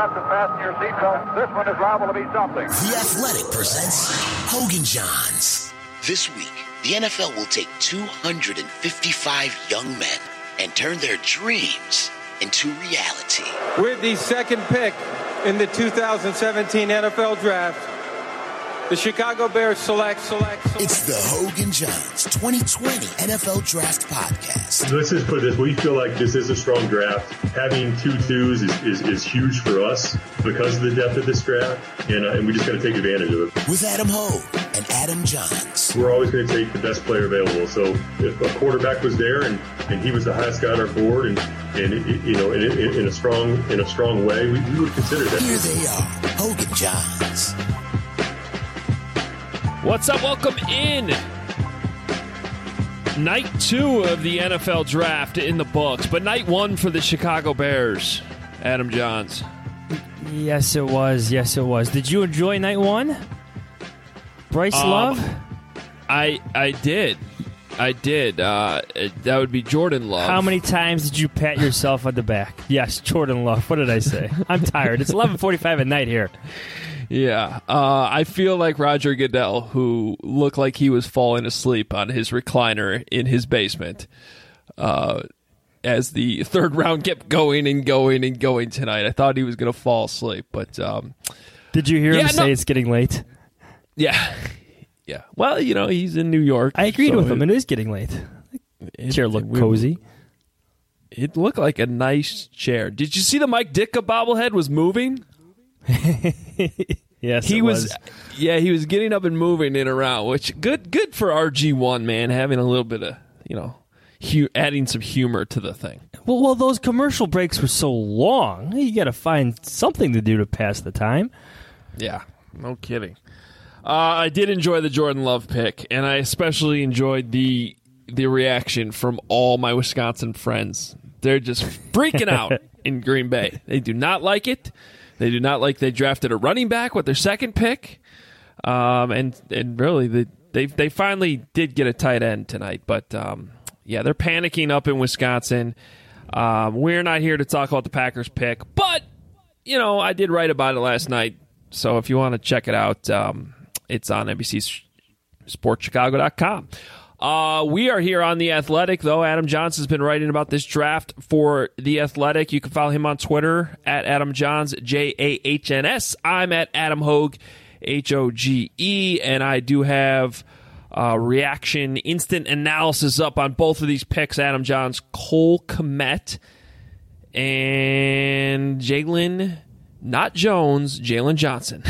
and fasten your seatbelt. This one is liable to be something. The Athletic presents Hogan Johns. This week, the NFL will take 255 young men and turn their dreams into reality. With the second pick in the 2017 NFL Draft, the Chicago Bears select. It's the Hogan Johns 2020 NFL Draft Podcast. Let's just put it this way. We feel like this is a strong draft. Having 2 twos is huge for us because of the depth of this draft, and we just got to take advantage of it. With Adam Hogue and Adam Johns. We're always going to take the best player available. So if a quarterback was there and he was the highest guy on our board and you know, in a strong way, we would consider that. Here they are, Hogan Johns. What's up? Welcome in. Night 2 of the NFL Draft in the books, but night 1 for the Chicago Bears. Adam Johns. Yes, it was. Did you enjoy night 1? Bryce Love? I did. That would be Jordan Love. How many times did you pat yourself on the back? Yes, Jordan Love. What did I say? I'm tired. It's 11:45 at night here. Yeah, I feel like Roger Goodell, who looked like he was falling asleep on his recliner in his basement as the third round kept going tonight. I thought he was going to fall asleep, but did you hear him say it's getting late? Yeah. Well, you know, he's in New York. I agreed with him. It is getting late. Chair looked cozy. It looked like a nice chair. Did you see the Mike Ditka bobblehead was moving? Yes, he was. Yeah, he was getting up and moving it around, which good for RG1, man, having a little bit of, you know, adding some humor to the thing. Well, those commercial breaks were so long. You got to find something to do to pass the time. Yeah, no kidding. I did enjoy the Jordan Love pick, and I especially enjoyed the reaction from all my Wisconsin friends. They're just freaking out in Green Bay. They do not like it. They do not like they drafted a running back with their second pick, and really they finally did get a tight end tonight. But yeah, they're panicking up in Wisconsin. We're not here to talk about the Packers pick, but you know I did write about it last night. So if you want to check it out, it's on NBCSportsChicago.com. We are here on The Athletic, though. Adam Johns has been writing about this draft for The Athletic. You can follow him on Twitter at Adam Johns, Jahns. I'm at Adam Hogue, Hoge, and I do have reaction, instant analysis up on both of these picks. Adam Johns, Cole Kmet, and Jalen, not Jones, Jalen Johnson.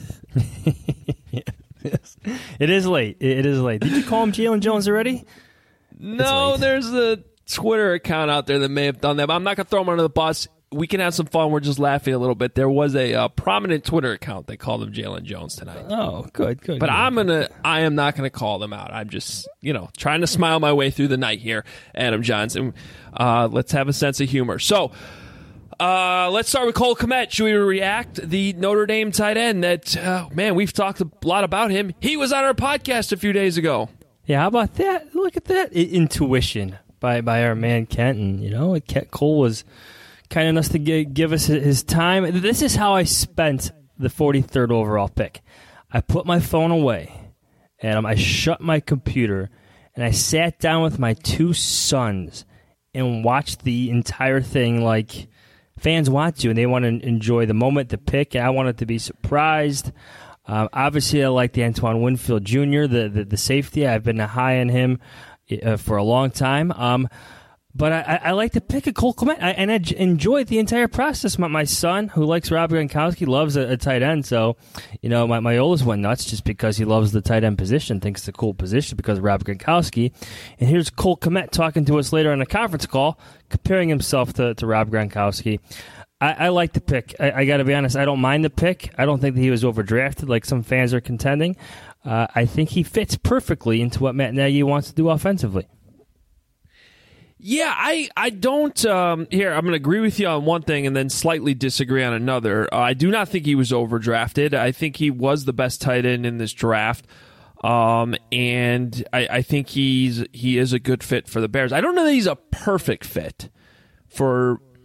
Yes. It is late. Did you call him Jalen Jones already? No, there's a Twitter account out there that may have done that, but I'm not going to throw him under the bus. We can have some fun. We're just laughing a little bit. There was a prominent Twitter account that called him Jalen Jones tonight. Oh, good. But I am not going to call them out. I'm just, trying to smile my way through the night here, Adam Johnson. Let's have a sense of humor. So, let's start with Cole Kmet. Should we react? The Notre Dame tight end that, we've talked a lot about him. He was on our podcast a few days ago. Yeah, how about that? Look at that. Intuition by our man Kent. And, Cole was kind enough to give us his time. This is how I spent the 43rd overall pick. I put my phone away, and I shut my computer, and I sat down with my 2 sons and watched the entire thing like fans want to, and they want to enjoy the moment, the pick, and I wanted to be surprised. Obviously, I like the Antoine Winfield Jr., the safety. I've been high on him for a long time. But I like to pick a Cole Kmet, and I enjoyed the entire process. My son, who likes Rob Gronkowski, loves a tight end. So, my oldest went nuts just because he loves the tight end position, thinks it's a cool position because of Rob Gronkowski. And here's Cole Kmet talking to us later on a conference call, comparing himself to Rob Gronkowski. I like the pick. I got to be honest, I don't mind the pick. I don't think that he was overdrafted like some fans are contending. I think he fits perfectly into what Matt Nagy wants to do offensively. Yeah, I don't. Here, I'm going to agree with you on one thing and then slightly disagree on another. I do not think he was overdrafted. I think he was the best tight end in this draft. And I think he is a good fit for the Bears. I don't know that he's a perfect fit for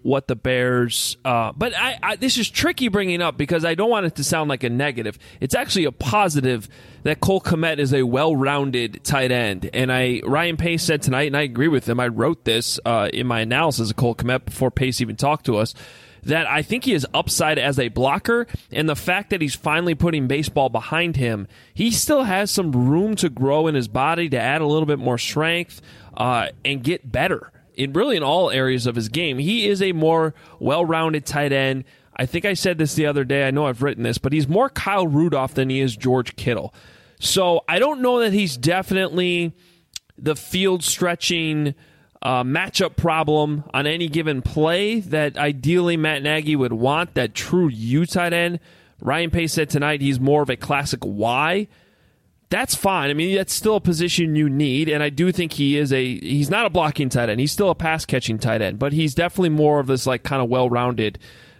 what the Bears. But this is tricky bringing up because I don't want it to sound like a negative. It's actually a positive that Cole Kmet is a well-rounded tight end. And Ryan Pace said tonight, and I agree with him. I wrote this in my analysis of Cole Kmet before Pace even talked to us, that I think he has upside as a blocker, and the fact that he's finally putting baseball behind him, he still has some room to grow in his body to add a little bit more strength and get better in all areas of his game. He is a more well-rounded tight end. I think I said this the other day. I know I've written this, but he's more Kyle Rudolph than he is George Kittle. So I don't know that he's definitely the field-stretching matchup problem on any given play that ideally Matt Nagy would want, that true U tight end. Ryan Pace said tonight he's more of a classic Y. That's fine. I mean, that's still a position you need, and I do think he's not a blocking tight end. He's still a pass-catching tight end, but he's definitely more of this like kind of well-rounded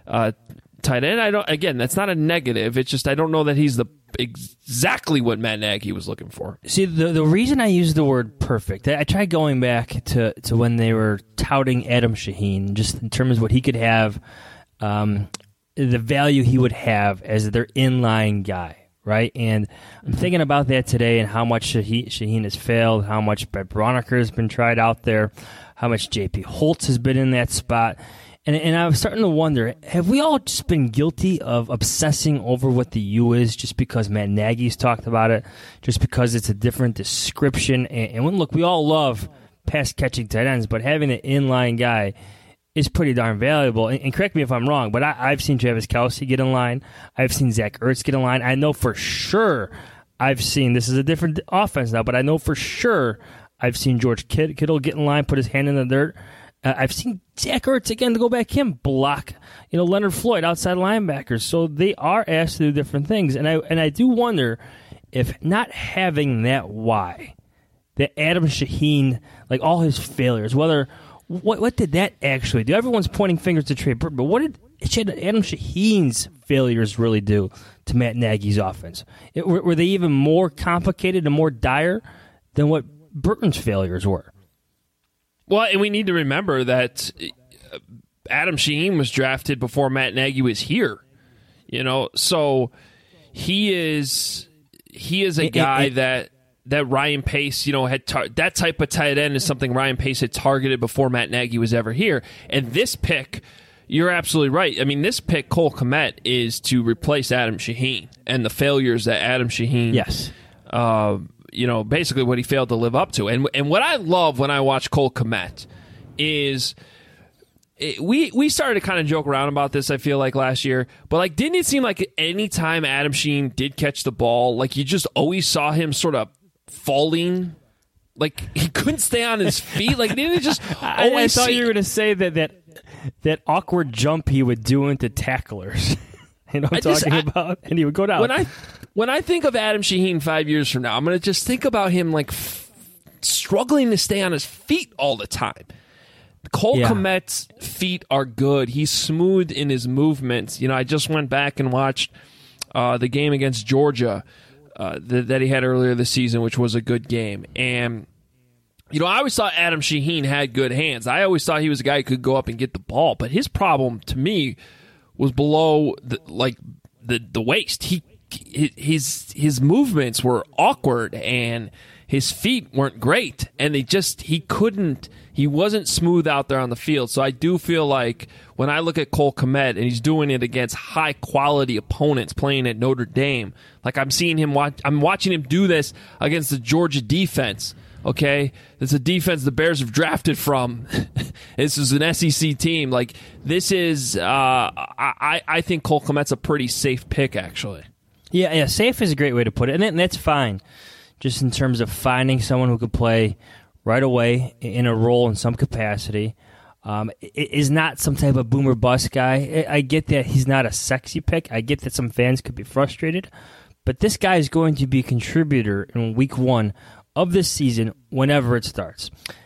tight end. Again, that's not a negative. It's just I don't know that he's exactly what Matt Nagy was looking for. See, the reason I use the word perfect, I tried going back to when they were touting Adam Shaheen, just in terms of what he could have, the value he would have as their inline guy, right? And I'm thinking about that today and how much Shaheen has failed, how much Brett Braunecker has been tried out there, how much J.P. Holtz has been in that spot. And I was starting to wonder, have we all just been guilty of obsessing over what the U is just because Matt Nagy's talked about it, just because it's a different description? And look, we all love pass-catching tight ends, but having an inline guy is pretty darn valuable. And correct me if I'm wrong, but I've seen Travis Kelce get in line. I've seen Zach Ertz get in line. I know for sure I've seen, this is a different offense now, but I know for sure I've seen George Kittle get in line, put his hand in the dirt. I've seen Zach Ertz, again, to go back him, block, Leonard Floyd, outside linebackers. So they are asked to do different things. And I do wonder if not having that why, that Adam Shaheen, like all his failures, what did that actually do? Everyone's pointing fingers to Trey Burton, but what did Adam Shaheen's failures really do to Matt Nagy's offense? Were they even more complicated and more dire than what Burton's failures were? Well, and we need to remember that Adam Shaheen was drafted before Matt Nagy was here. So he is a guy that Ryan Pace, had that type of tight end is something Ryan Pace had targeted before Matt Nagy was ever here. And this pick, you're absolutely right. I mean, this pick, Cole Kmet, is to replace Adam Shaheen and the failures that Adam Shaheen, yes, basically what he failed to live up to. And what I love when I watch Cole Kmet is we started to kind of joke around about this, I feel like, last year. But, like, didn't it seem like any time Adam Shaheen did catch the ball, like, you just always saw him sort of falling? Like, he couldn't stay on his feet? Like, didn't it just always I thought you were going to say that awkward jump he would do into tacklers. I'm talking about? And he would go down. When I think of Adam Shaheen 5 years from now, I'm going to just think about him like struggling to stay on his feet all the time. Cole Kmet's feet are good. He's smooth in his movements. I just went back and watched the game against Georgia that he had earlier this season, which was a good game. And, I always thought Adam Shaheen had good hands. I always thought he was a guy who could go up and get the ball. But his problem, to me, was below the waist. His movements were awkward and his feet weren't great, and he wasn't smooth out there on the field. So I do feel like when I look at Cole Kmet and he's doing it against high quality opponents playing at Notre Dame, like I'm watching him do this against the Georgia defense. Okay, it's a defense the Bears have drafted from. This is an SEC team. Like, this is, I think Cole Kmet's a pretty safe pick, actually. Yeah, safe is a great way to put it, and that's fine. Just in terms of finding someone who could play right away in a role in some capacity. Is not some type of boomer bust guy. I get that he's not a sexy pick. I get that some fans could be frustrated, but this guy is going to be a contributor in week 1 of this season whenever it starts.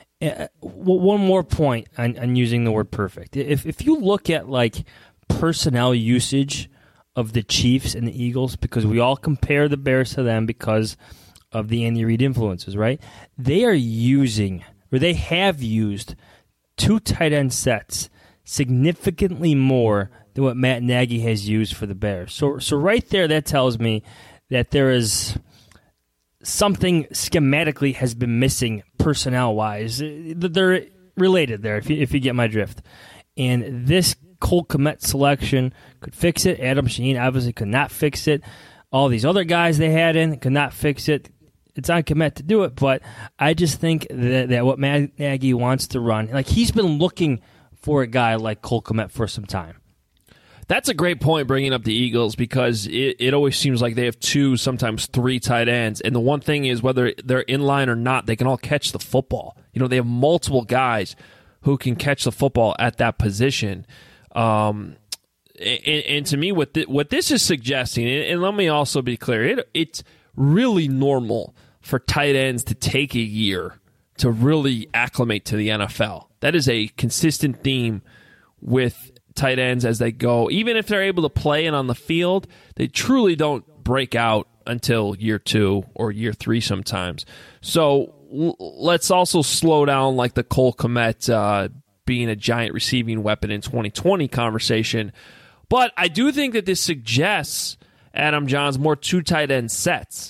One more point on using the word perfect. If you look at like personnel usage of the Chiefs and the Eagles, because we all compare the Bears to them because of the Andy Reid influences, right? They have used 2 tight end sets significantly more than what Matt Nagy has used for the Bears. So right there, that tells me that there is something schematically has been missing personnel-wise. They're related there, if you get my drift. And this Cole Kmet selection could fix it. Adam Shaheen obviously could not fix it. All these other guys they had in could not fix it. It's on Kmet to do it, but I just think that what Matt Nagy wants to run, like he's been looking for a guy like Cole Kmet for some time. That's a great point, bringing up the Eagles, because it always seems like they have 2, sometimes 3 tight ends. And the one thing is, whether they're in line or not, they can all catch the football. They have multiple guys who can catch the football at that position. And to me, what this is suggesting, and let me also be clear, it's really normal for tight ends to take a year to really acclimate to the NFL. That is a consistent theme with tight ends as they go. Even if they're able to play and on the field, they truly don't break out until year 2 or year 3 sometimes. So let's also slow down like the Cole Kmet being a giant receiving weapon in 2020 conversation. But I do think that this suggests, Adam Johns, more 2 tight end sets,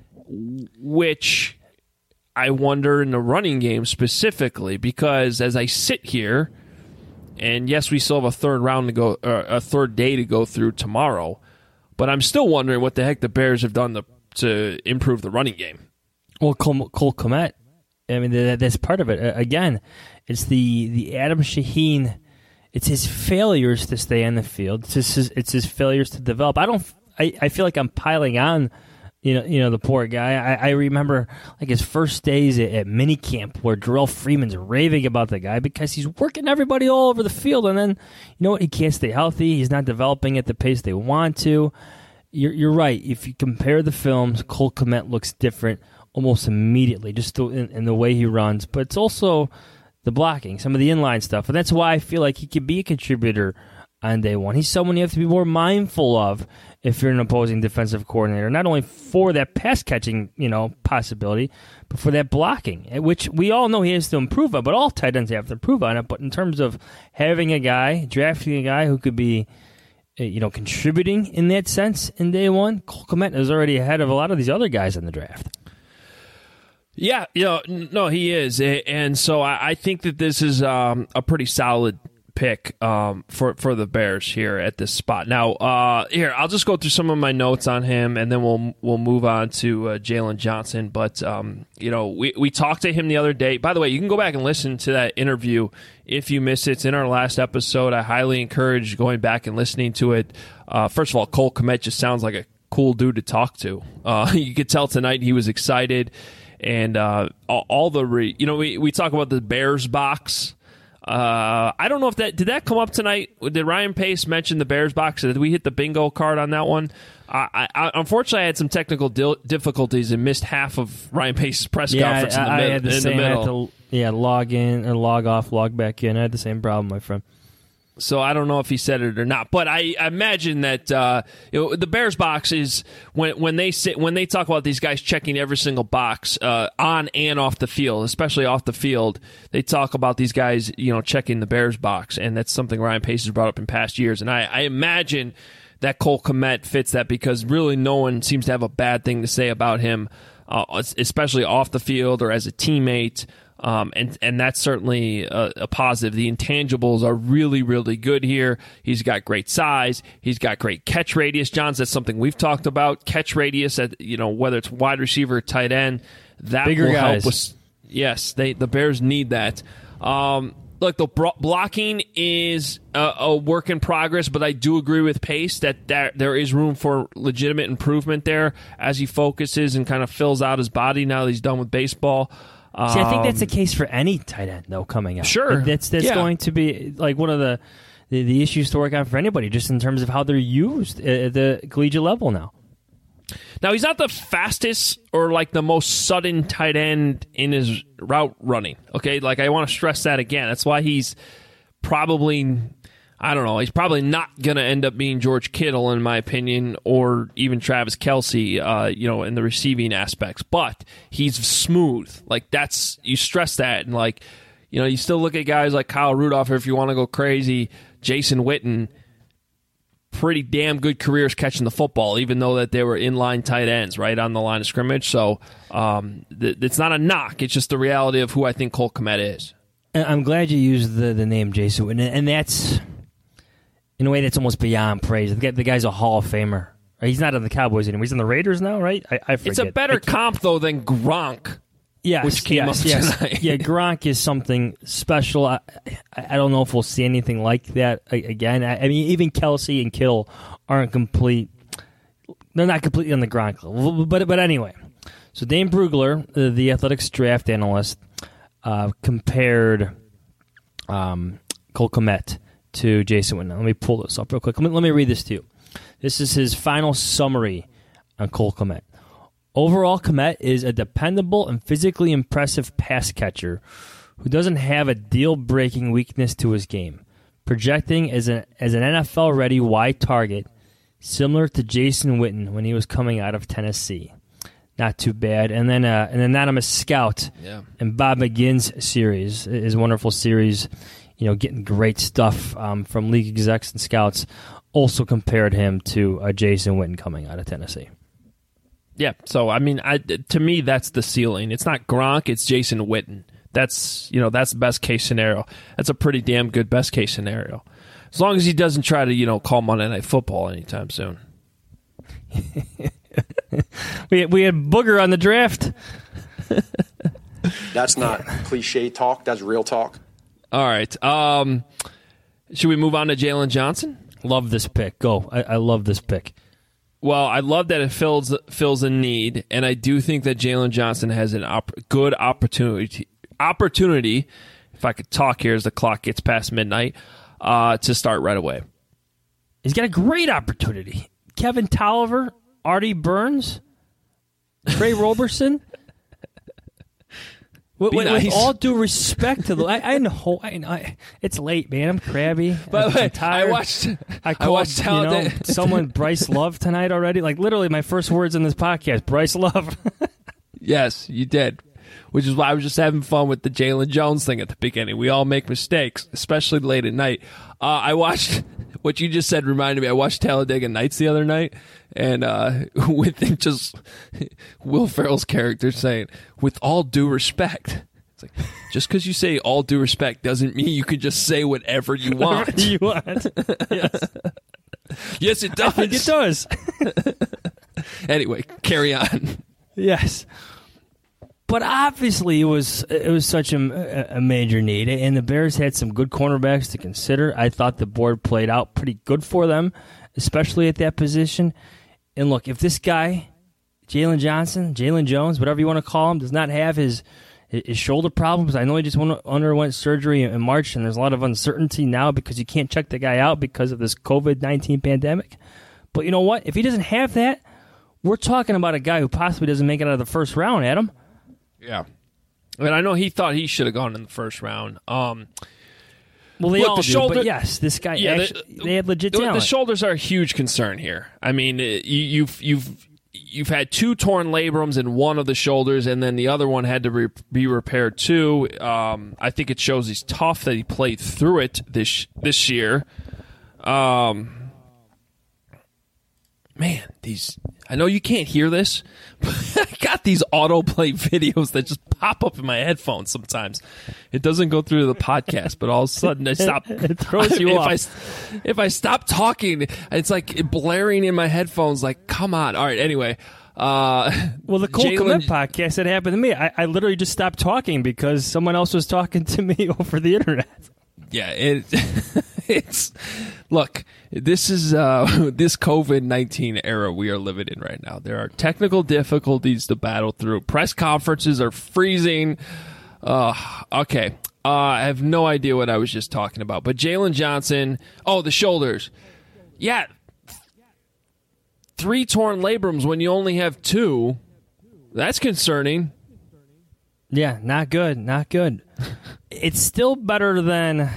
which I wonder in the running game specifically, because as I sit here, and yes, we still have a third round to go, or a third day to go through tomorrow, but I'm still wondering what the heck the Bears have done to improve the running game. Well, Cole Kmet, I mean, that's part of it. Again, it's the Adam Shaheen. It's his failures to stay on the field. It's his failures to develop. I feel like I'm piling on. The poor guy. I remember like his first days at minicamp where Darrell Freeman's raving about the guy because he's working everybody all over the field, and then he can't stay healthy. He's not developing at the pace they want to. You're right. If you compare the films, Cole Kmet looks different almost immediately, just in the way he runs. But it's also the blocking, some of the inline stuff, and that's why I feel like he could be a contributor on day one. He's someone you have to be more mindful of if you're an opposing defensive coordinator, not only for that pass catching, possibility, but for that blocking, which we all know he has to improve on, but all tight ends have to improve on it. But in terms of having a guy, drafting a guy who could be, contributing in that sense in day one, Cole Kmet is already ahead of a lot of these other guys in the draft. Yeah, no, he is. And so I think that this is a pretty solid pick for the Bears here at this spot. Now, here, I'll just go through some of my notes on him, and then we'll move on to Jalen Johnson. But, we talked to him the other day. By the way, you can go back and listen to that interview if you missed it. It's in our last episode. I highly encourage going back and listening to it. First of all, Cole Kmet just sounds like a cool dude to talk to. You could tell tonight he was excited. And all the we talk about the Bears box. I don't know if did that come up tonight. Did Ryan Pace mention the Bears box? Did we hit the bingo card on that one? I unfortunately, I had some technical difficulties and missed half of Ryan Pace's press conference in the middle. I had to, log in or log off, log back in. I had the same problem, my friend. So I don't know if he said it or not, but I imagine that the Bears box is when they talk about these guys checking every single box on and off the field, especially off the field. They talk about these guys, checking the Bears box, and that's something Ryan Pace has brought up in past years. And I imagine that Cole Kmet fits that because really no one seems to have a bad thing to say about him, especially off the field or as a teammate. And that's certainly a positive. The intangibles are really, really good here. He's got great size. He's got great catch radius. Johns, that's something we've talked about. Catch radius at whether it's wide receiver or tight end, that bigger will guys. help with. Yes, the Bears need that. Look, the blocking is a work in progress, but I do agree with Pace that there is room for legitimate improvement there as he focuses and kind of fills out his body now that he's done with baseball. See, I think that's the case for any tight end, though, coming out. Sure. That's going to be like one of the issues to work on for anybody, just in terms of how they're used at the collegiate level now. Now, he's not the fastest or like the most sudden tight end in his route running. Okay, like I want to stress that again. That's why he's probably, I don't know, he's probably not going to end up being George Kittle, in my opinion, or even Travis Kelce, in the receiving aspects. But he's smooth. Like you stress that, and like you still look at guys like Kyle Rudolph, or if you want to go crazy, Jason Witten, pretty damn good careers catching the football, even though that they were inline tight ends, right on the line of scrimmage. So it's not a knock. It's just the reality of who I think Cole Kmet is. I'm glad you used the name Jason Witten, and that's, in a way, that's almost beyond praise. The guy's a Hall of Famer. He's not on the Cowboys anymore. He's in the Raiders now, right? I forget. It's a better comp, though, than Gronk. Yes, which came up tonight. Yeah, Gronk is something special. I don't know if we'll see anything like that again. I mean, even Kelsey and Kittle aren't complete. They're not completely on the Gronk level. But anyway, so Dane Brugler, the Athletics draft analyst, compared Cole Kmet to Jason Witten. Let me pull this up real quick. Let me read this to you. This is his final summary on Cole Kmet. Overall, Kmet is a dependable and physically impressive pass catcher who doesn't have a deal-breaking weakness to his game, projecting as an NFL-ready wide target, similar to Jason Witten when he was coming out of Tennessee. Not too bad. And then an anonymous scout in Bob McGinn's series, his wonderful series, getting great stuff from league execs and scouts, also compared him to Jason Witten coming out of Tennessee. Yeah, so I mean, to me, that's the ceiling. It's not Gronk; it's Jason Witten. That's the best case scenario. That's a pretty damn good best case scenario, as long as he doesn't try to call Monday Night Football anytime soon. we had Booger on the draft. That's not cliche talk. That's real talk. All right. Should we move on to Jalen Johnson? Love this pick. Go. I love this pick. Well, I love that it fills a need, and I do think that Jalen Johnson has a good opportunity, if I could talk here as the clock gets past midnight, to start right away. He's got a great opportunity. Kevin Tolliver, Artie Burns, Trey Roberson. With all due respect to the, I know, it's late, man. I'm crabby. By the way, tired. I called someone Bryce Love tonight already. Like literally, my first words in this podcast, Bryce Love. Yes, you did. Which is why I was just having fun with the Jalen Jones thing at the beginning. We all make mistakes, especially late at night. I watched what you just said. Reminded me. I watched Talladega Nights the other night, and with just Will Ferrell's character saying, "With all due respect." It's like, just because you say all due respect doesn't mean you can just say whatever you want. Whatever you want. Yes. Yes, it does. I think it does. Anyway, carry on. Yes. But obviously, it was such a major need, and the Bears had some good cornerbacks to consider. I thought the board played out pretty good for them, especially at that position. And look, if this guy, Jalen Johnson, Jalen Jones, whatever you want to call him, does not have his shoulder problems, I know he just underwent surgery in March, and there's a lot of uncertainty now because you can't check the guy out because of this COVID-19 pandemic. But you know what? If he doesn't have that, we're talking about a guy who possibly doesn't make it out of the first round, Adam. Yeah. And I know he thought he should have gone in the first round. Well, they all do, but yes, this guy, they had legit talent. The shoulders are a huge concern here. I mean, you've had two torn labrums in one of the shoulders, and then the other one had to be repaired too. I think it shows he's tough that he played through it this year. Man, I know you can't hear this, but I got these autoplay videos that just pop up in my headphones sometimes. It doesn't go through the podcast, but all of a sudden I stop. It throws you off. If I stop talking, it's like blaring in my headphones like, come on. All right, anyway. Well, the Cole Kmet podcast, it happened to me. I literally just stopped talking because someone else was talking to me over the internet. Yeah, it's look. This is this COVID-19 era we are living in right now. There are technical difficulties to battle through. Press conferences are freezing. Okay, I have no idea what I was just talking about. But Jalen Johnson, the shoulders. Yeah, 3 torn labrums when you only have 2. That's concerning. Yeah, not good. Not good. It's still better than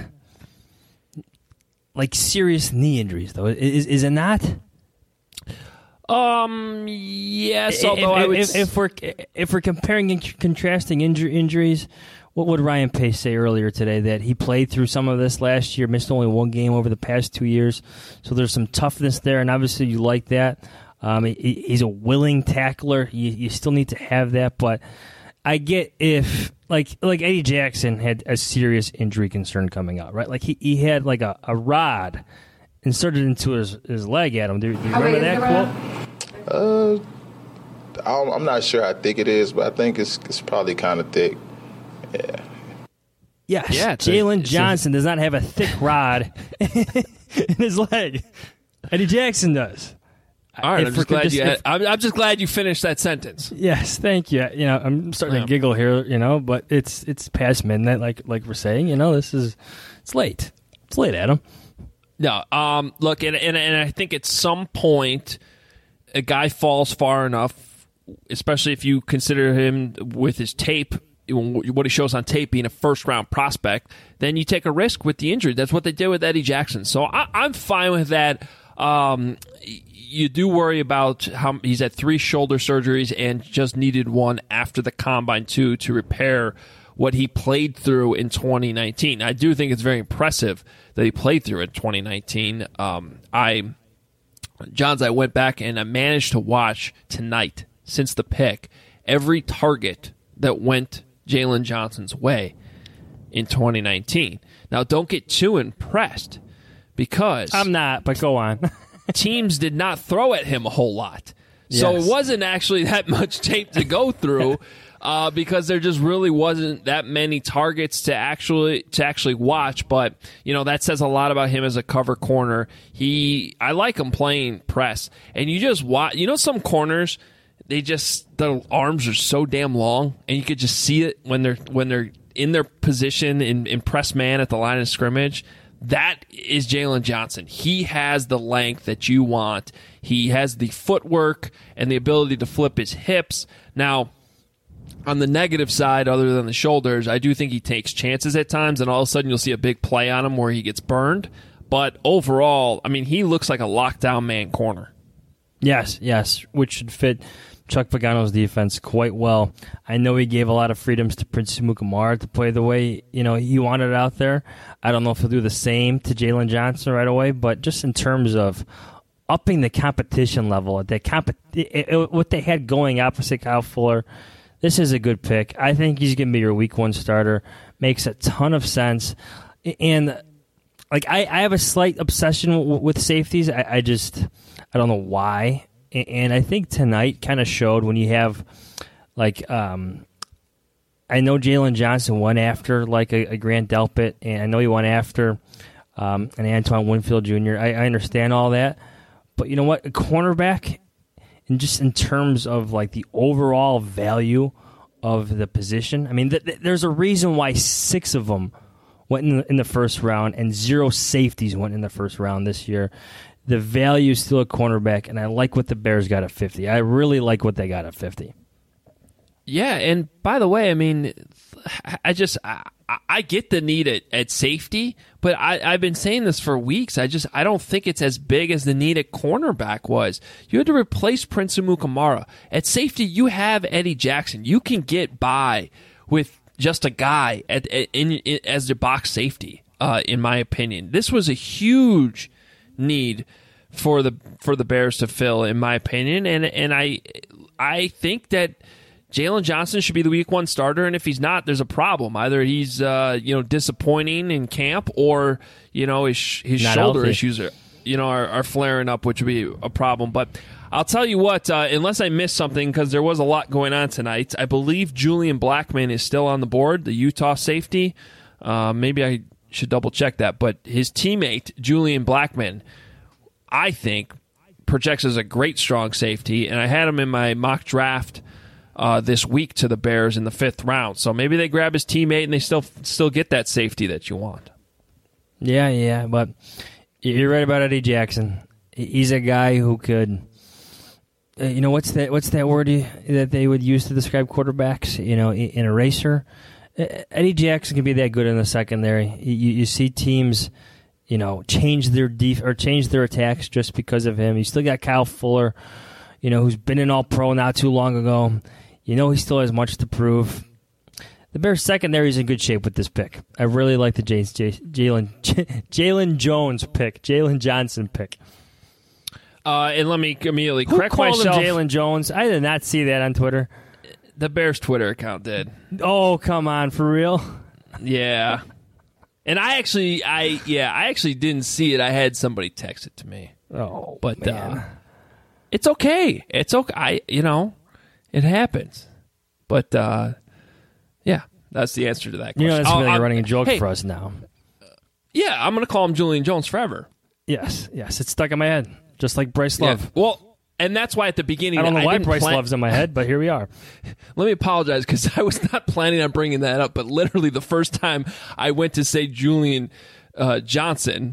like serious knee injuries, though. Is it not? Yes. Although if we're comparing and contrasting injuries, what would Ryan Pace say earlier today, that he played through some of this last year, missed only one game over the past 2 years. So there's some toughness there, and obviously you like that. He's a willing tackler. You still need to have that, but I get if like Eddie Jackson had a serious injury concern coming out, right? Like he had like a rod inserted into his leg at him. Do you remember that quote? I'm not sure how thick it is, but I think it's probably kind of thick. Yeah. Yes. Yeah, Jalen Johnson does not have a thick rod in his leg. Eddie Jackson does. All right, I'm just glad you finished that sentence. Yes, thank you. I'm starting to giggle here, but it's past midnight, like we're saying. It's late. It's late, Adam. No, look, and I think at some point a guy falls far enough, especially if you consider him with his tape, what he shows on tape being a first-round prospect, then you take a risk with the injury. That's what they did with Eddie Jackson. So I'm fine with that. You do worry about how he's had 3 shoulder surgeries and just needed one after the Combine, too, to repair what he played through in 2019. I do think it's very impressive that he played through it in 2019. Johns, I went back and I managed to watch tonight, since the pick, every target that went Jalen Johnson's way in 2019. Now, don't get too impressed, because I'm not, but go on. Teams did not throw at him a whole lot. So It wasn't actually that much tape to go through because there just really wasn't that many targets to actually watch. But, that says a lot about him as a cover corner. I like him playing press. And you just watch, some corners, their arms are so damn long, and you could just see it when they're in their position in press man at the line of scrimmage. That is Jalen Johnson. He has the length that you want. He has the footwork and the ability to flip his hips. Now, on the negative side, other than the shoulders, I do think he takes chances at times, and all of a sudden you'll see a big play on him where he gets burned. But overall, he looks like a lockdown man corner. Yes, which should fit Chuck Pagano's defense quite well. I know he gave a lot of freedoms to Prince Amukamara to play the way he wanted it out there. I don't know if he'll do the same to Jalen Johnson right away, but just in terms of upping the competition level, what they had going opposite Kyle Fuller, this is a good pick. I think he's going to be your week 1 starter. Makes a ton of sense. And I have a slight obsession with safeties. I don't know why. And I think tonight kind of showed when you have, I know Jalen Johnson went after, a Grant Delpit, and I know he went after an Antoine Winfield Jr. I understand all that. But you know what? A cornerback, and just in terms of, the overall value of the position, there's a reason why 6 of them went in the first round and 0 safeties went in the first round this year. The value is still a cornerback, and I like what the Bears got at 50. I really like what they got at 50. Yeah, and by the way, I get the need at safety, but I've been saying this for weeks. I don't think it's as big as the need at cornerback was. You had to replace Prince Amukamara. At safety, you have Eddie Jackson. You can get by with just a guy as the box safety, in my opinion. This was a huge need for the Bears to fill, in my opinion, and I think that Jalen Johnson should be the week 1 starter, and if he's not, there's a problem. Either he's disappointing in camp, or his shoulder issues are flaring up, which would be a problem. But I'll tell you what, unless I missed something, because there was a lot going on tonight, I believe Julian Blackmon is still on the board, the Utah safety. Maybe I should double check that, but his teammate Julian Blackmon, I think, projects as a great strong safety, and I had him in my mock draft this week to the Bears in the 5th round. So maybe they grab his teammate and they still get that safety that you want. Yeah, but you're right about Eddie Jackson. He's a guy who could, what's that word that they would use to describe quarterbacks? An eraser. Eddie Jackson can be that good in the secondary. You see teams, change their change their attacks just because of him. You still got Kyle Fuller, who's been an All-Pro not too long ago. He still has much to prove. The Bears secondary is in good shape with this pick. I really like the Jalen Jones pick, Jalen Johnson pick. And let me immediately correct myself. Who called him Jalen Jones? I did not see that on Twitter. The Bears Twitter account did. Oh, come on, for real? Yeah. And I actually didn't see it. I had somebody text it to me. Oh, but man. It's okay. It's okay. It happens. But yeah, that's the answer to that question. That's really a running joke for us now. Yeah, I'm going to call him Julian Jones forever. Yes, it's stuck in my head, just like Bryce Love. Yeah. Well, and that's why at the beginning I don't know why Bryce Love's in my head, but here we are. Let me apologize because I was not planning on bringing that up, but literally the first time I went to say Julian Johnson,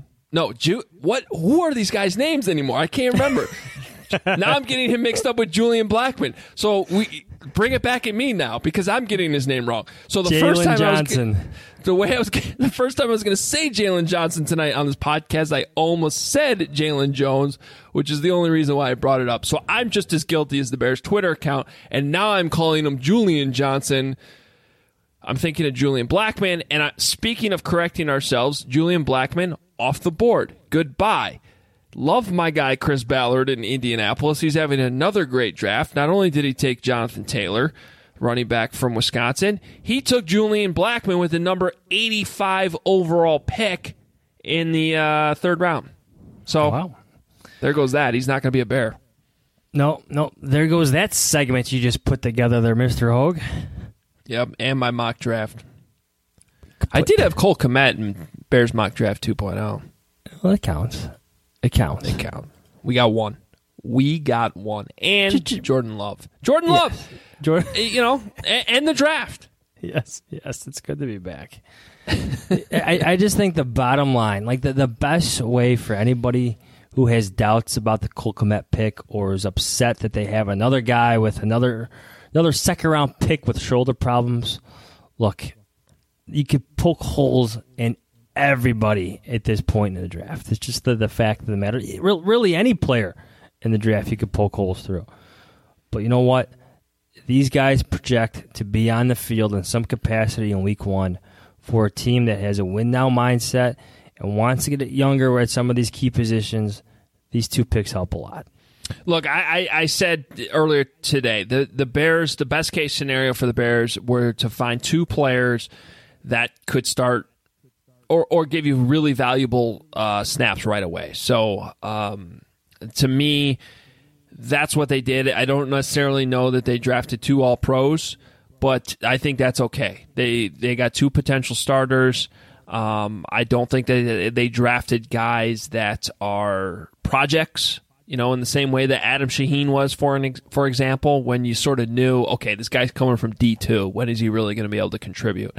who are these guys' names anymore? I can't remember. Now I'm getting him mixed up with Julian Blackmon. So we bring it back at me now because I'm getting his name wrong. So the first time the first time I was going to say Jalen Johnson tonight on this podcast, I almost said Jalen Jones, which is the only reason why I brought it up. So I'm just as guilty as the Bears Twitter account, and now I'm calling him Julian Johnson. I'm thinking of Julian Blackmon, and speaking of correcting ourselves, Julian Blackmon off the board. Goodbye. Love my guy Chris Ballard in Indianapolis. He's having another great draft. Not only did he take Jonathan Taylor, running back from Wisconsin, he took Julian Blackmon with the number 85 overall pick in the third round. So There goes that. He's not going to be a Bear. No. There goes that segment you just put together there, Mr. Hogue. Yep, and my mock draft. I did have Cole Kmet in Bears mock draft 2.0. Well, that counts. It counts. We got one. And Jordan Love. Love. Jordan. And the draft. Yes, it's good to be back. I just think the bottom line, like the best way for anybody who has doubts about the Cole Kmet pick or is upset that they have another guy with another second-round pick with shoulder problems, look, you could poke holes in everybody at this point in the draft. It's just the fact of the matter. Really, any player in the draft you could poke holes through. But you know what? These guys project to be on the field in some capacity in week one for a team that has a win-now mindset and wants to get it younger at some of these key positions. These two picks help a lot. Look, I said earlier today, the Bears, the best-case scenario for the Bears were to find two players that could start or give you really valuable snaps right away. So, to me, that's what they did. I don't necessarily know that they drafted two All-Pros, but I think that's okay. They got two potential starters. I don't think that they drafted guys that are projects, in the same way that Adam Shaheen was, for example, when you sort of knew, okay, this guy's coming from D2. When is he really going to be able to contribute?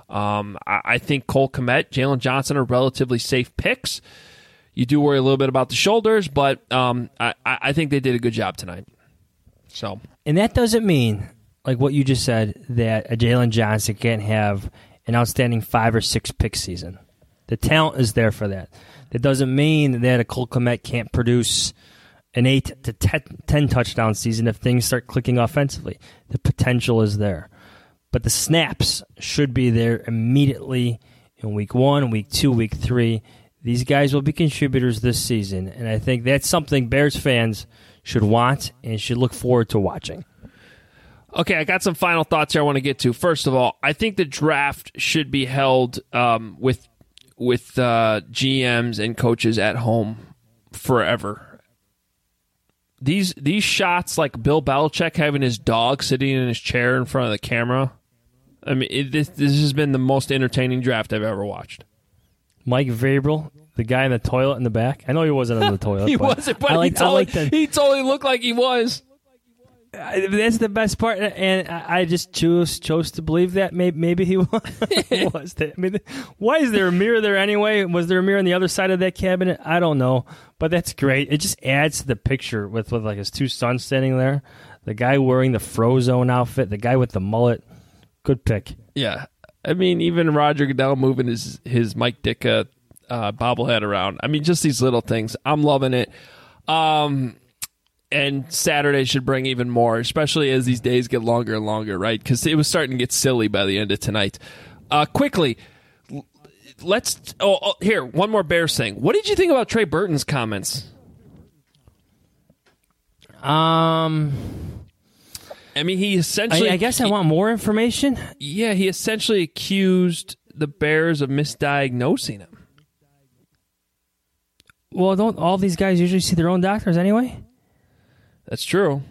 I think Cole Kmet, Jalen Johnson are relatively safe picks. You do worry a little bit about the shoulders, but I think they did a good job tonight. And that doesn't mean, like what you just said, that a Jalen Johnson can't have an outstanding 5 or 6 pick season. The talent is there for that. That doesn't mean that a Cole Kmet can't produce an 8 to 10 touchdown season if things start clicking offensively. The potential is there. But the snaps should be there immediately in week 1, week 2, week 3. These guys will be contributors this season, and I think that's something Bears fans should want and should look forward to watching. Okay, I got some final thoughts here I want to get to. First of all, I think the draft should be held with GMs and coaches at home forever. These shots, like Bill Belichick having his dog sitting in his chair in front of the camera, I mean, this has been the most entertaining draft I've ever watched. Mike Vrabel, the guy in the toilet in the back. I know he wasn't in the toilet. He wasn't, but he totally looked like he was. That's the best part, and I just chose to believe that maybe he was. I mean, why is there a mirror there anyway? Was there a mirror on the other side of that cabinet? I don't know, but that's great. It just adds to the picture with like his two sons standing there, the guy wearing the Frozone outfit, the guy with the mullet. Good pick. Yeah, I mean, even Roger Goodell moving his Mike Ditka bobblehead around. I mean, just these little things. I'm loving it. And Saturday should bring even more, especially as these days get longer and longer, right? Because it was starting to get silly by the end of tonight. Quickly, let's... here, one more Bears thing. What did you think about Trey Burton's comments? I mean, he essentially... I guess I want more information. Yeah, he essentially accused the Bears of misdiagnosing him. Well, don't all these guys usually see their own doctors anyway? That's true.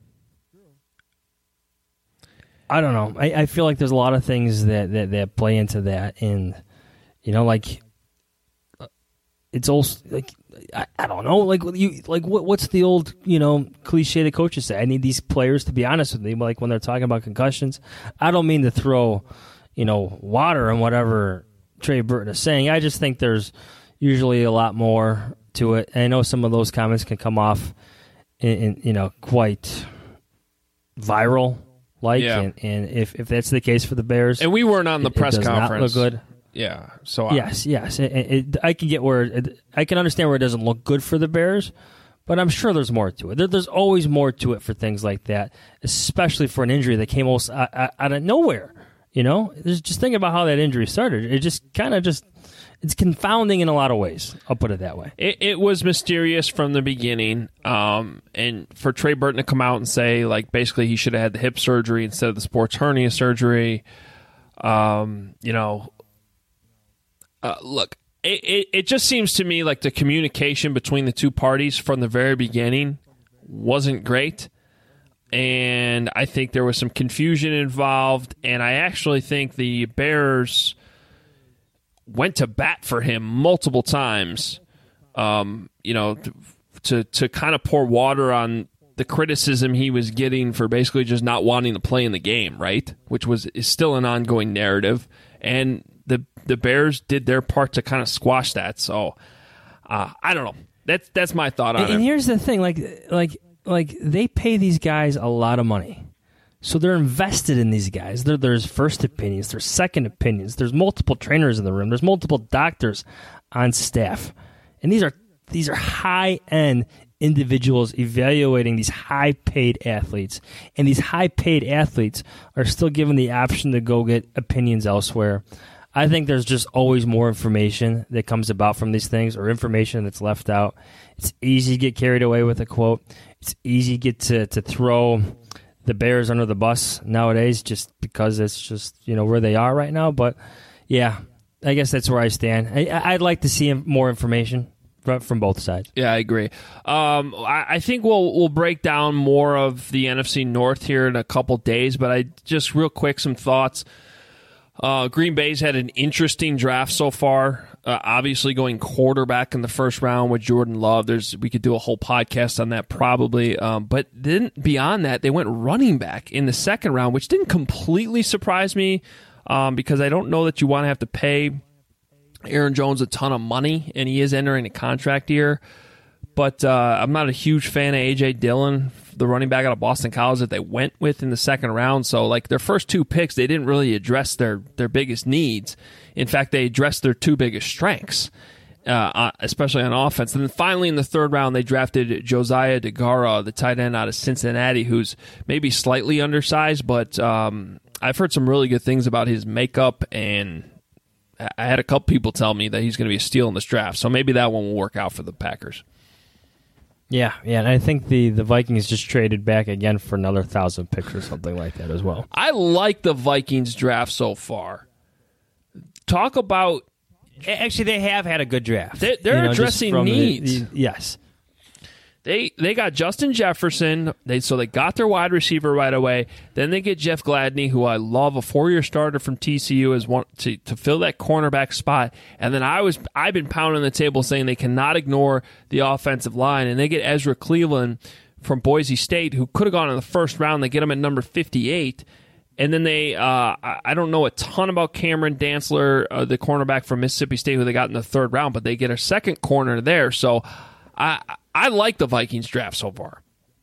I don't know. I feel like there's a lot of things that play into that, and like it's also like I don't know, what's the old cliche that coaches say? I need these players to be honest with me, like when they're talking about concussions. I don't mean to throw water on whatever Trey Burton is saying. I just think there's usually a lot more to it. And I know some of those comments can come off in quite viral. And if that's the case for the Bears, and we weren't on the press conference, not look good. Yeah. So yes. I can get I can understand where it doesn't look good for the Bears, but I'm sure there's more to it. There's always more to it for things like that, especially for an injury that came almost out of nowhere. There's just thinking about how that injury started. It just kind of it's confounding in a lot of ways. I'll put it that way. It was mysterious from the beginning. And for Trey Burton to come out and say, like, basically he should have had the hip surgery instead of the sports hernia surgery. Look, it just seems to me like the communication between the two parties from the very beginning wasn't great. And I think there was some confusion involved. And I actually think the Bears went to bat for him multiple times, to kind of pour water on the criticism he was getting for basically just not wanting to play in the game, right? Which is still an ongoing narrative. And the Bears did their part to kind of squash that. So I don't know. That's my thought on it. And here's the thing, like they pay these guys a lot of money. So they're invested in these guys. There's first opinions, there's second opinions, there's multiple trainers in the room, there's multiple doctors on staff. And these are high-end individuals evaluating these high-paid athletes. And these high-paid athletes are still given the option to go get opinions elsewhere. I think there's just always more information that comes about from these things, or information that's left out. It's easy to get carried away with a quote. It's easy to get to throw the Bears under the bus nowadays just because it's just where they are right now. But yeah, I guess that's where I stand. I'd like to see more information from both sides. Yeah, I agree. I think we'll break down more of the NFC North here in a couple days, but I just real quick some thoughts. Green Bay's had an interesting draft so far. Obviously going quarterback in the first round with Jordan Love. We could do a whole podcast on that probably. But then beyond that, they went running back in the second round, which didn't completely surprise me because I don't know that you want to have to pay Aaron Jones a ton of money, and he is entering a contract year. But I'm not a huge fan of A.J. Dillon, the running back out of Boston College that they went with in the second round. So, like, their first two picks, they didn't really address their biggest needs. In fact, they addressed their two biggest strengths, especially on offense. And then finally in the third round, they drafted Josiah DeGuara, the tight end out of Cincinnati, who's maybe slightly undersized, but I've heard some really good things about his makeup, and I had a couple people tell me that he's going to be a steal in this draft. So maybe that one will work out for the Packers. Yeah, and I think the Vikings just traded back again for another 1,000 picks or something like that as well. I like the Vikings draft so far. Talk about... Actually, they have had a good draft. They're addressing needs. Yes. They got Justin Jefferson, so they got their wide receiver right away. Then they get Jeff Gladney, who I love, a 4-year starter from TCU, as one to fill that cornerback spot. And then I've been pounding the table saying they cannot ignore the offensive line, and they get Ezra Cleveland from Boise State, who could have gone in the first round. They get him at number 58. And then they, I don't know a ton about Cameron Dantzler, the cornerback from Mississippi State, who they got in the third round, but they get a second corner there. So I like the Vikings draft so far.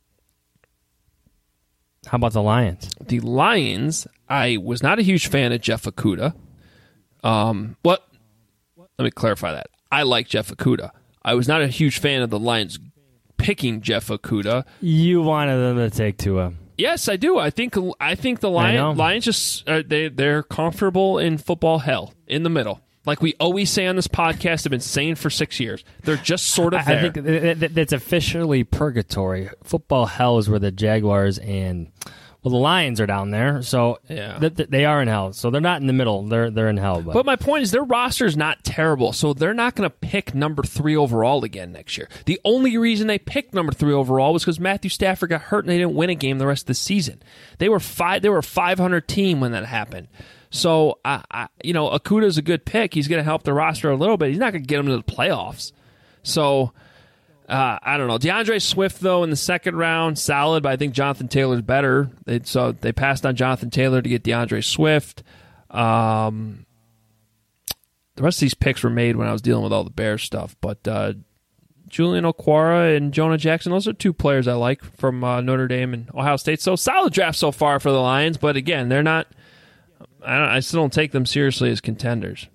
How about the Lions? The Lions, I was not a huge fan of Jeff Okudah. Let me clarify that. I like Jeff Okudah. I was not a huge fan of the Lions picking Jeff Okudah. You wanted them to take Tua. Yes, I do. I think the Lions just they're comfortable in football hell in the middle. Like we always say on this podcast, have been saying for 6 years. They're just sort of there. I think that's officially purgatory. Football hell is where the Jaguars and the Lions are down there. So they are in hell. So they're not in the middle. They're in hell. But my point is their roster is not terrible. So they're not going to pick number 3 overall again next year. The only reason they picked number 3 overall was because Matthew Stafford got hurt and they didn't win a game the rest of the season. They were a 500 team when that happened. So, Okudah's a good pick. He's going to help the roster a little bit. He's not going to get them to the playoffs. So, I don't know. DeAndre Swift, though, in the second round, solid, but I think Jonathan Taylor's better. So they passed on Jonathan Taylor to get DeAndre Swift. The rest of these picks were made when I was dealing with all the Bears stuff. But Julian Okwara and Jonah Jackson, those are 2 players I like from Notre Dame and Ohio State. So, solid draft so far for the Lions. But, again, they're not... I still don't take them seriously as contenders.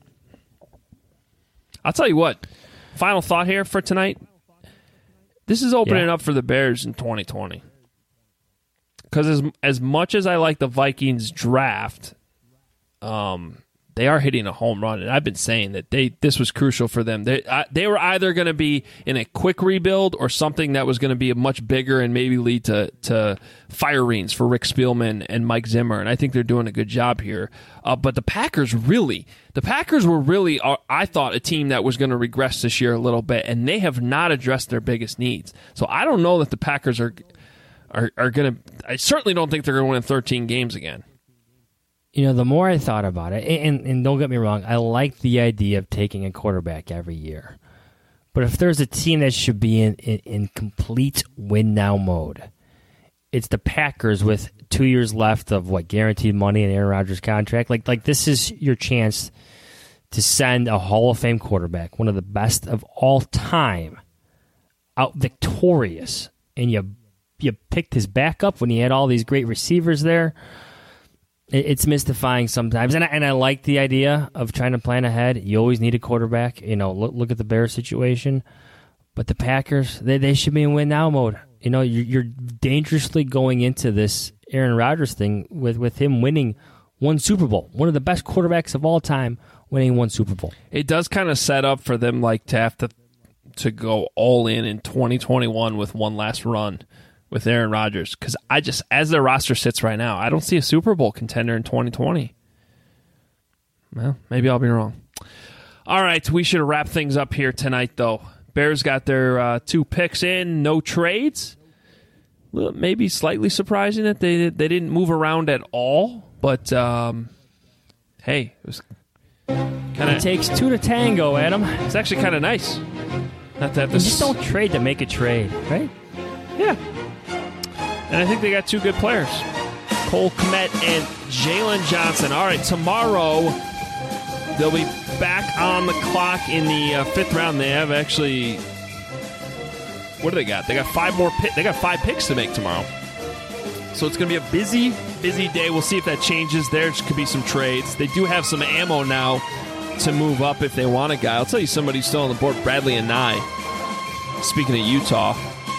I'll tell you what. Final thought here for tonight. This is opening up for the Bears in 2020. Because as much as I like the Vikings draft, they are hitting a home run. And I've been saying that this was crucial for them. They were either going to be in a quick rebuild or something that was going to be much bigger and maybe lead to firings for Rick Spielman and Mike Zimmer. And I think they're doing a good job here. But the Packers were really, I thought, a team that was going to regress this year a little bit. And they have not addressed their biggest needs. So I don't know that the Packers are going to, I certainly don't think they're going to win 13 games again. The more I thought about it, and don't get me wrong, I like the idea of taking a quarterback every year. But if there's a team that should be in complete win-now mode, it's the Packers with 2 years left of, guaranteed money in Aaron Rodgers' contract. Like this is your chance to send a Hall of Fame quarterback, one of the best of all time, out victorious. And you picked his backup when he had all these great receivers there. It's mystifying sometimes, and I like the idea of trying to plan ahead. You always need a quarterback. Look at the Bears situation, but the Packers they should be in win now mode. You're dangerously going into this Aaron Rodgers thing with him winning 1 Super Bowl, one of the best quarterbacks of all time, winning 1 Super Bowl. It does kind of set up for them to have to go all in 2021 with one last run with Aaron Rodgers, because as their roster sits right now, I don't see a Super Bowl contender in 2020. Well, maybe I'll be wrong. All right, we should wrap things up here tonight, though. Bears got their 2 picks in, no trades. Maybe slightly surprising that they didn't move around at all, but hey, it was kind of. It takes 2 to tango, Adam. It's actually kind of nice. Not to have this. Just don't trade to make a trade, right? Yeah. And I think they got 2 good players, Cole Kmet and Jalen Johnson. All right, tomorrow they'll be back on the clock in the 5th round. They have actually, what do they got? They got 5 more. They got 5 picks to make tomorrow. So it's going to be a busy day. We'll see if that changes. There could be some trades. They do have some ammo now to move up if they want a guy. I'll tell you somebody who's still on the board, Bradley Anae. Speaking of Utah.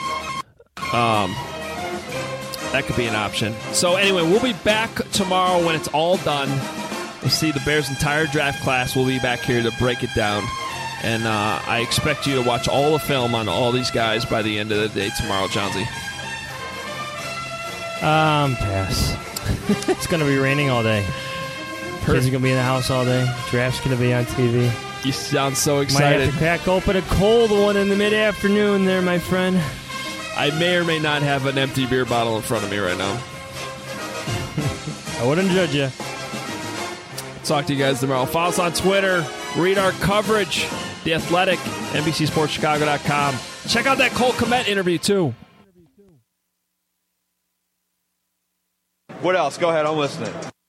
That could be an option. So anyway, we'll be back tomorrow when it's all done. We'll see the Bears' entire draft class. We'll be back here to break it down. And I expect you to watch all the film on all these guys by the end of the day tomorrow, Johnsy. Pass. It's going to be raining all day. Kids are going to be in the house all day. Draft's going to be on TV. You sound so excited. Might have to crack open a cold one in the mid-afternoon there, my friend. I may or may not have an empty beer bottle in front of me right now. I wouldn't judge you. Talk to you guys tomorrow. Follow us on Twitter. Read our coverage. The Athletic, NBCSportsChicago.com. Check out that Cole Kmet interview, too. What else? Go ahead. I'm listening.